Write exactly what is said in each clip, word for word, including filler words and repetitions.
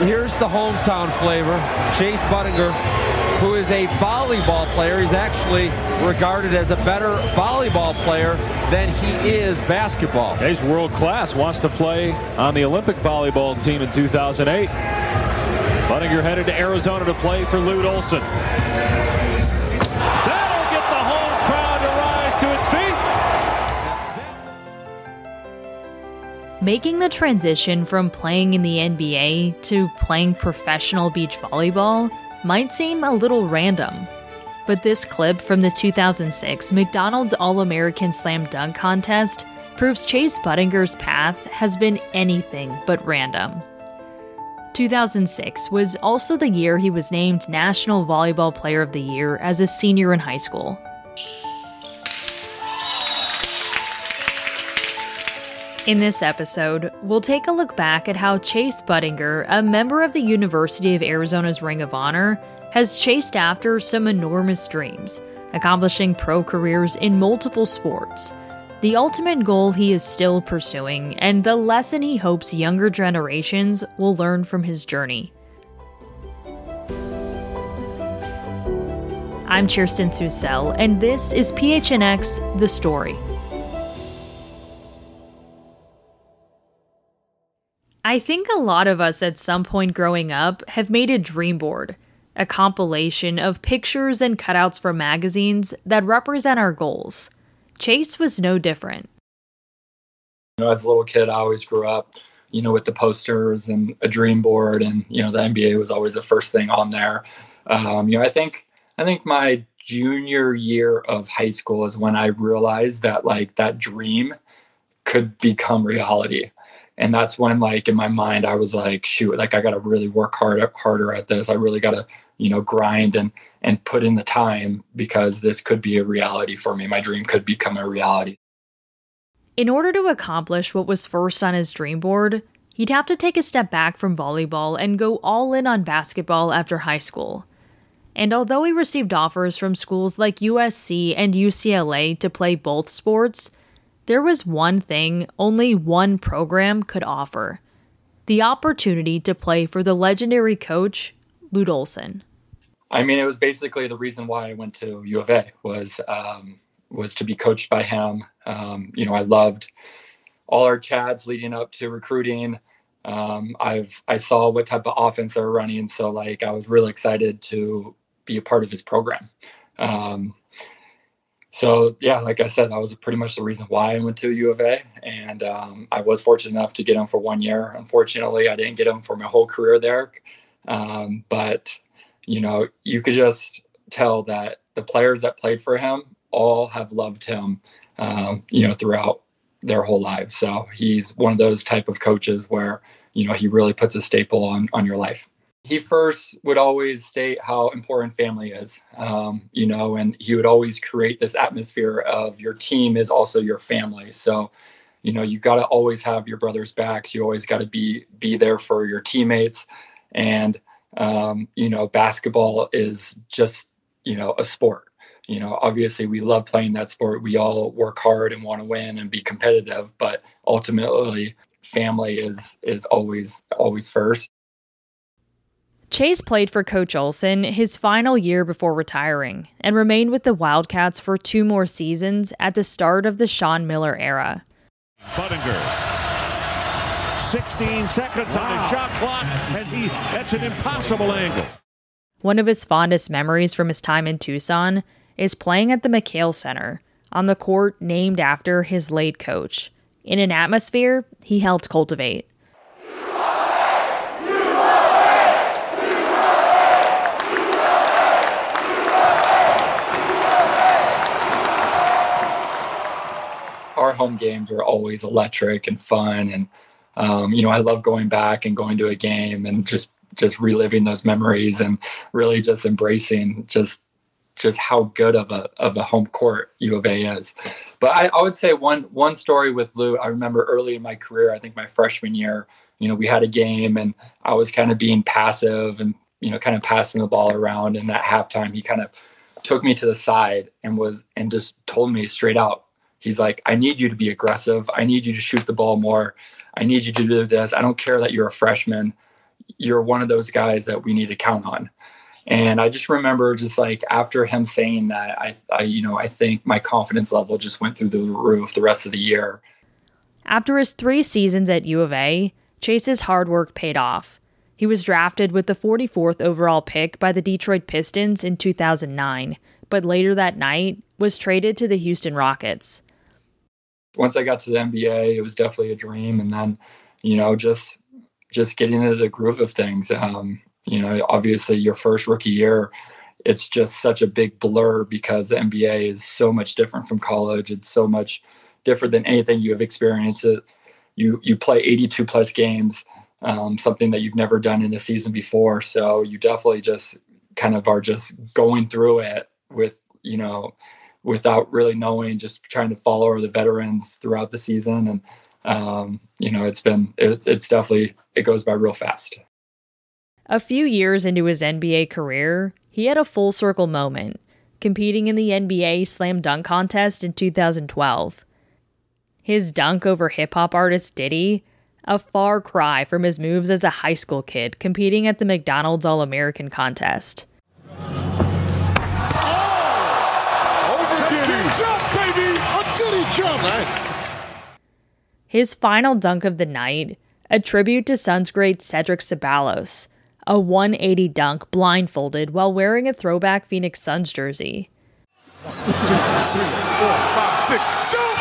here's the hometown flavor. Chase Budinger, who is a volleyball player. He's actually regarded as a better volleyball player than he is basketball. He's world class, wants to play on the Olympic volleyball team in two thousand eight. Budinger headed to Arizona to play for Lute Olson. That'll get the home crowd to rise to its feet. Making the transition from playing in the N B A to playing professional beach volleyball might seem a little random, but this clip from the two thousand six McDonald's All-American Slam Dunk Contest proves Chase Budinger's path has been anything but random. two thousand six was also the year he was named National Volleyball Player of the Year as a senior in high school. In this episode, we'll take a look back at how Chase Budinger, a member of the University of Arizona's Ring of Honor, has chased after some enormous dreams, accomplishing pro careers in multiple sports, the ultimate goal he is still pursuing, and the lesson he hopes younger generations will learn from his journey. I'm Kirsten Susel, and this is P H N X The Story. I think a lot of us at some point growing up have made a dream board, a compilation of pictures and cutouts from magazines that represent our goals. Chase was no different. You know, as a little kid, I always grew up, you know, with the posters and a dream board, and you know, the N B A was always the first thing on there. Um, you know, I think I think my junior year of high school is when I realized that like that dream could become reality. And that's when, like, in my mind, I was like, shoot, like, I got to really work hard, harder at this. I really got to, you know, grind and, and put in the time, because this could be a reality for me. My dream could become a reality. In order to accomplish what was first on his dream board, he'd have to take a step back from volleyball and go all in on basketball after high school. And although he received offers from schools like U S C and U C L A to play both sports, there was one thing only one program could offer: the opportunity to play for the legendary coach, Lute Olson. I mean, it was basically the reason why I went to U of A was um, was to be coached by him. Um, you know, I loved all our chats leading up to recruiting. Um, I've I saw what type of offense they were running, so like I was really excited to be a part of his program. Um, So, yeah, like I said, that was pretty much the reason why I went to U of A. And um, I was fortunate enough to get him for one year. Unfortunately, I didn't get him for my whole career there. Um, but, you know, you could just tell that the players that played for him all have loved him, um, you know, throughout their whole lives. So he's one of those type of coaches where, you know, he really puts a staple on, on your life. He first would always state how important family is, um, you know, and he would always create this atmosphere of your team is also your family. So, you know, you got to always have your brother's backs. You always got to be be there for your teammates. And, um, you know, basketball is just, you know, a sport. You know, obviously we love playing that sport. We all work hard and want to win and be competitive. But ultimately, family is is always, always first. Chase played for Coach Olson his final year before retiring and remained with the Wildcats for two more seasons at the start of the Sean Miller era. Budinger, sixteen seconds wow. on the shot clock, and he, that's an impossible angle. One of his fondest memories from his time in Tucson is playing at the McHale Center, on the court named after his late coach, in an atmosphere he helped cultivate. Our home games are always electric and fun. And, um, you know, I love going back and going to a game and just, just reliving those memories and really just embracing just, just how good of a, of a home court U of A is. But I, I would say one, one story with Lute, I remember early in my career, I think my freshman year, you know, we had a game and I was kind of being passive and, you know, kind of passing the ball around. And at halftime, he kind of took me to the side and was, and just told me straight out, he's like, I need you to be aggressive. I need you to shoot the ball more. I need you to do this. I don't care that you're a freshman. you're one of those guys that we need to count on. And I just remember just like after him saying that, I, I, you know, I think my confidence level just went through the roof the rest of the year. After his three seasons at U of A, Chase's hard work paid off. He was drafted with the forty-fourth overall pick by the Detroit Pistons in two thousand nine, but later that night was traded to the Houston Rockets. Once I got to the N B A, it was definitely a dream. And then, you know, just just getting into the groove of things. Um, you know, obviously your first rookie year, it's just such a big blur because the N B A is so much different from college. It's so much different than anything you have experienced. It, you you play eighty-two plus games, um, something that you've never done in a season before. So you definitely just kind of are just going through it with, you know, without really knowing, just trying to follow the veterans throughout the season. And, um, you know, it's been, it's, it's definitely, it goes by real fast. A few years into his N B A career, he had a full circle moment, competing in the N B A Slam Dunk Contest in two thousand twelve. His dunk over hip-hop artist Diddy, a far cry from his moves as a high school kid competing at the McDonald's All-American Contest. Jump, baby! A Diddy jump! Nice. His final dunk of the night, a tribute to Suns great Cedric Ceballos, a one eighty dunk blindfolded while wearing a throwback Phoenix Suns jersey. One, two, three, four, five, six, jump!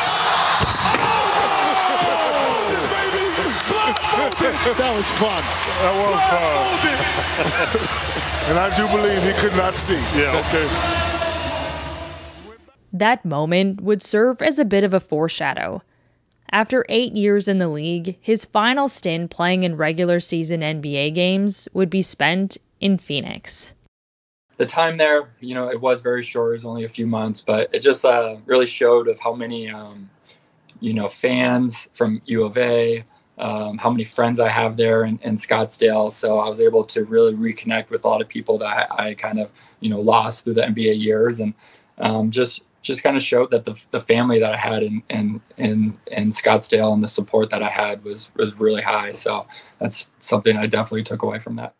Oh, baby! That was fun. That was fun. And I do believe he could not see. Yeah, okay. That moment would serve as a bit of a foreshadow. After eight years in the league, his final stint playing in regular season N B A games would be spent in Phoenix. The time there, you know, it was very short. It was only a few months, but it just uh, really showed of how many, um, you know, fans from U of A, um, how many friends I have there in, in Scottsdale. So I was able to really reconnect with a lot of people that I, I kind of, you know, lost through the N B A years, and um, just just kind of showed that the the family that I had in in in, in Scottsdale and the support that I had was was really high. So that's something I definitely took away from that.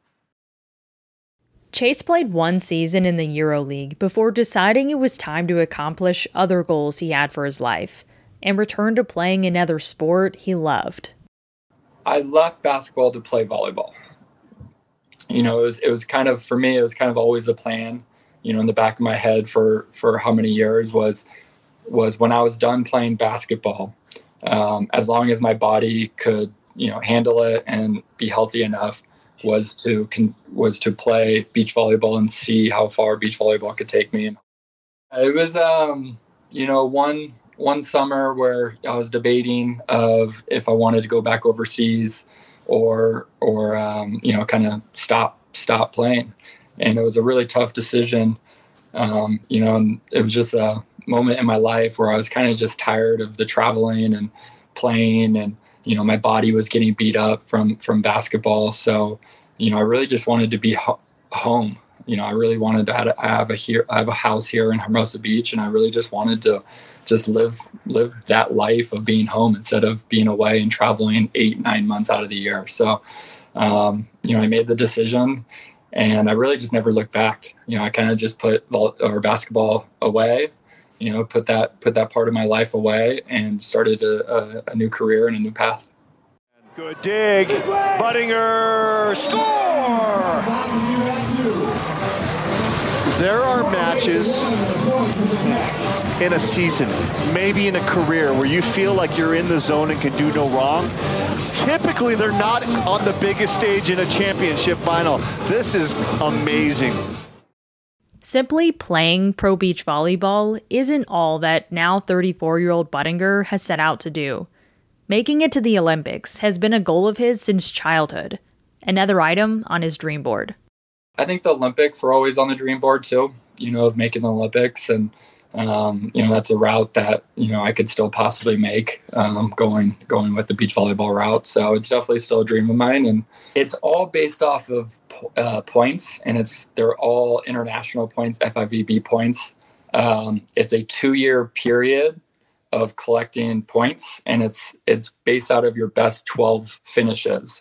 Chase played one season in the EuroLeague before deciding it was time to accomplish other goals he had for his life and return to playing another sport he loved. I left basketball to play volleyball. You know, it was it was kind of, for me, it was kind of always a plan, you know, in the back of my head for, for how many years was, was when I was done playing basketball, um, as long as my body could, you know, handle it and be healthy enough, was to, con- was to play beach volleyball and see how far beach volleyball could take me. It was, um, you know, one, one summer where I was debating of if I wanted to go back overseas or, or, um, you know, kind of stop, stop playing. And it was a really tough decision. Um, you know, and it was just a moment in my life where I was kind of just tired of the traveling and playing, and, you know, my body was getting beat up from, from basketball. So, you know, I really just wanted to be ho- home. You know, I really wanted to have, have a here, I have a house here in Hermosa Beach, and I really just wanted to just live, live that life of being home instead of being away and traveling eight, nine months out of the year. So, um, you know, I made the decision, and I really just never looked back. You know, I kind of just put vol- or basketball away, you know, put that, put that part of my life away, and started a, a, a new career and a new path. Good dig. Budinger, score! There are matches in a season, maybe in a career, where you feel like you're in the zone and can do no wrong. Typically, they're not on the biggest stage in a championship final. This is amazing. Simply playing pro beach volleyball isn't all that now thirty-four-year-old Budinger has set out to do. Making it to the Olympics has been a goal of his since childhood, another item on his dream board. I think the Olympics were always on the dream board too, you know, of making the Olympics. And, um, you know, that's a route that, you know, I could still possibly make, um, going, going with the beach volleyball route. So it's definitely still a dream of mine. And it's all based off of uh, points, and it's, they're all international points, F I V B points. Um, it's a two year period of collecting points, and it's, it's based out of your best twelve finishes.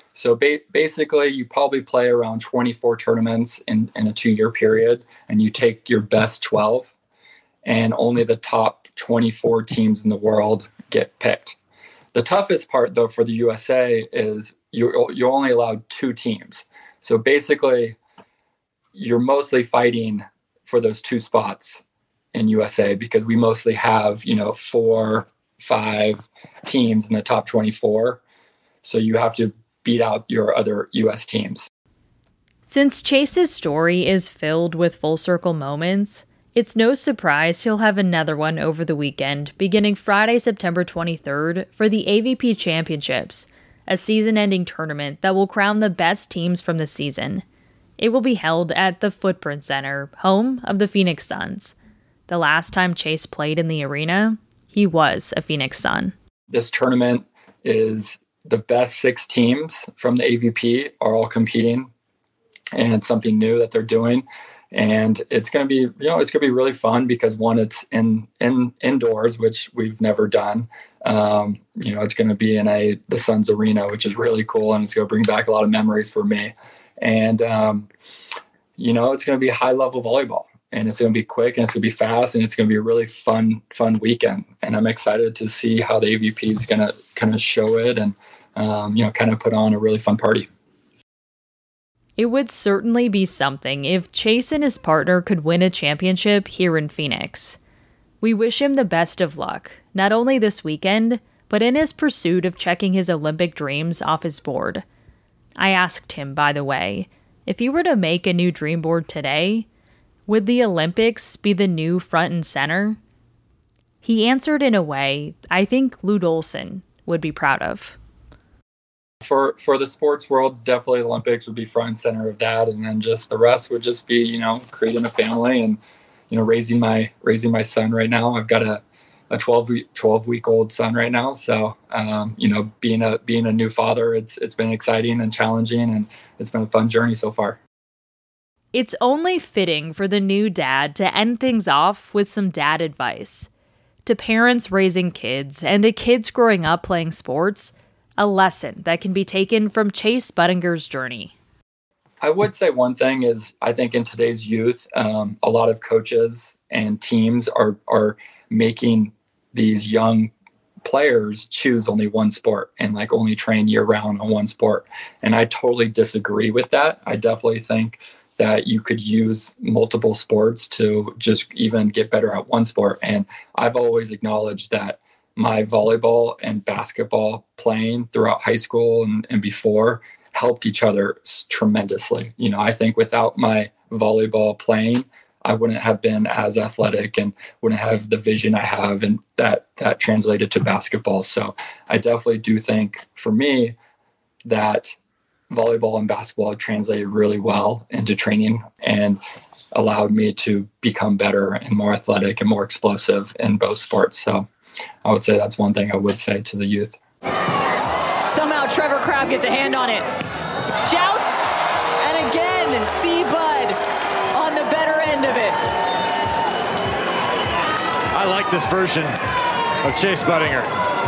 So ba- basically, you probably play around twenty-four tournaments in, in a two-year period, and you take your best twelve, and only the top twenty-four teams in the world get picked. The toughest part, though, for the U S A is you you're only allowed two teams. So basically, you're mostly fighting for those two spots in U S A because we mostly have, you know, four, five teams in the top twenty-four. So you have to beat out your other U S teams. Since Chase's story is filled with full circle moments, it's no surprise he'll have another one over the weekend, beginning Friday, September twenty-third, for the A V P Championships, a season-ending tournament that will crown the best teams from the season. It will be held at the Footprint Center, home of the Phoenix Suns. The last time Chase played in the arena, he was a Phoenix Sun. This tournament is the best six teams from the A V P are all competing, and it's something new that they're doing. And it's going to be, you know, it's going to be really fun because one, it's in, in indoors, which we've never done. Um, you know, it's going to be in a, the Suns arena, which is really cool. And it's going to bring back a lot of memories for me. And, um, you know, it's going to be high level volleyball, and it's going to be quick, and it's going to be fast, and it's going to be a really fun, fun weekend. And I'm excited to see how the A V P is going to kind of show it and, um, you know, kind of put on a really fun party. It would certainly be something if Chase and his partner could win a championship here in Phoenix. We wish him the best of luck, not only this weekend, but in his pursuit of checking his Olympic dreams off his board. I asked him, by the way, if he were to make a new dream board today, would the Olympics be the new front and center? He answered in a way I think Lute Olson would be proud of. For for the sports world, definitely the Olympics would be front and center of that, and then just the rest would just be, you know, creating a family and, you know, raising my raising my son right now. I've got a a twelve week old son right now, so um, you know, being a being a new father, it's it's been exciting and challenging, and it's been a fun journey so far. It's only fitting for the new dad to end things off with some dad advice. To parents raising kids and to kids growing up playing sports, a lesson that can be taken from Chase Buddinger's journey. I would say one thing is, I think in today's youth, um, a lot of coaches and teams are are making these young players choose only one sport and like only train year round on one sport. And I totally disagree with that. I definitely think that you could use multiple sports to just even get better at one sport. And I've always acknowledged that my volleyball and basketball playing throughout high school and, and before helped each other tremendously. You know, I think without my volleyball playing, I wouldn't have been as athletic and wouldn't have the vision I have, and that that translated to basketball. So I definitely do think for me that volleyball and basketball translated really well into training and allowed me to become better and more athletic and more explosive in both sports. So I would say that's one thing I would say to the youth. Somehow Trevor Crabb gets a hand on it. Joust, and again, C. Bud on the better end of it. I like this version of Chase Budinger.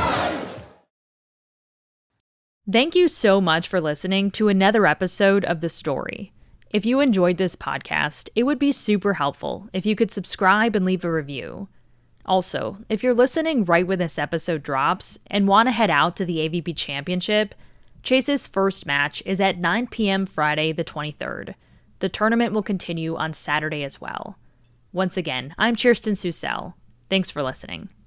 Thank you so much for listening to another episode of The Story. If you enjoyed this podcast, it would be super helpful if you could subscribe and leave a review. Also, if you're listening right when this episode drops and want to head out to the A V P Championship, Chase's first match is at nine p.m. Friday the twenty-third. The tournament will continue on Saturday as well. Once again, I'm Kirsten Susel. Thanks for listening.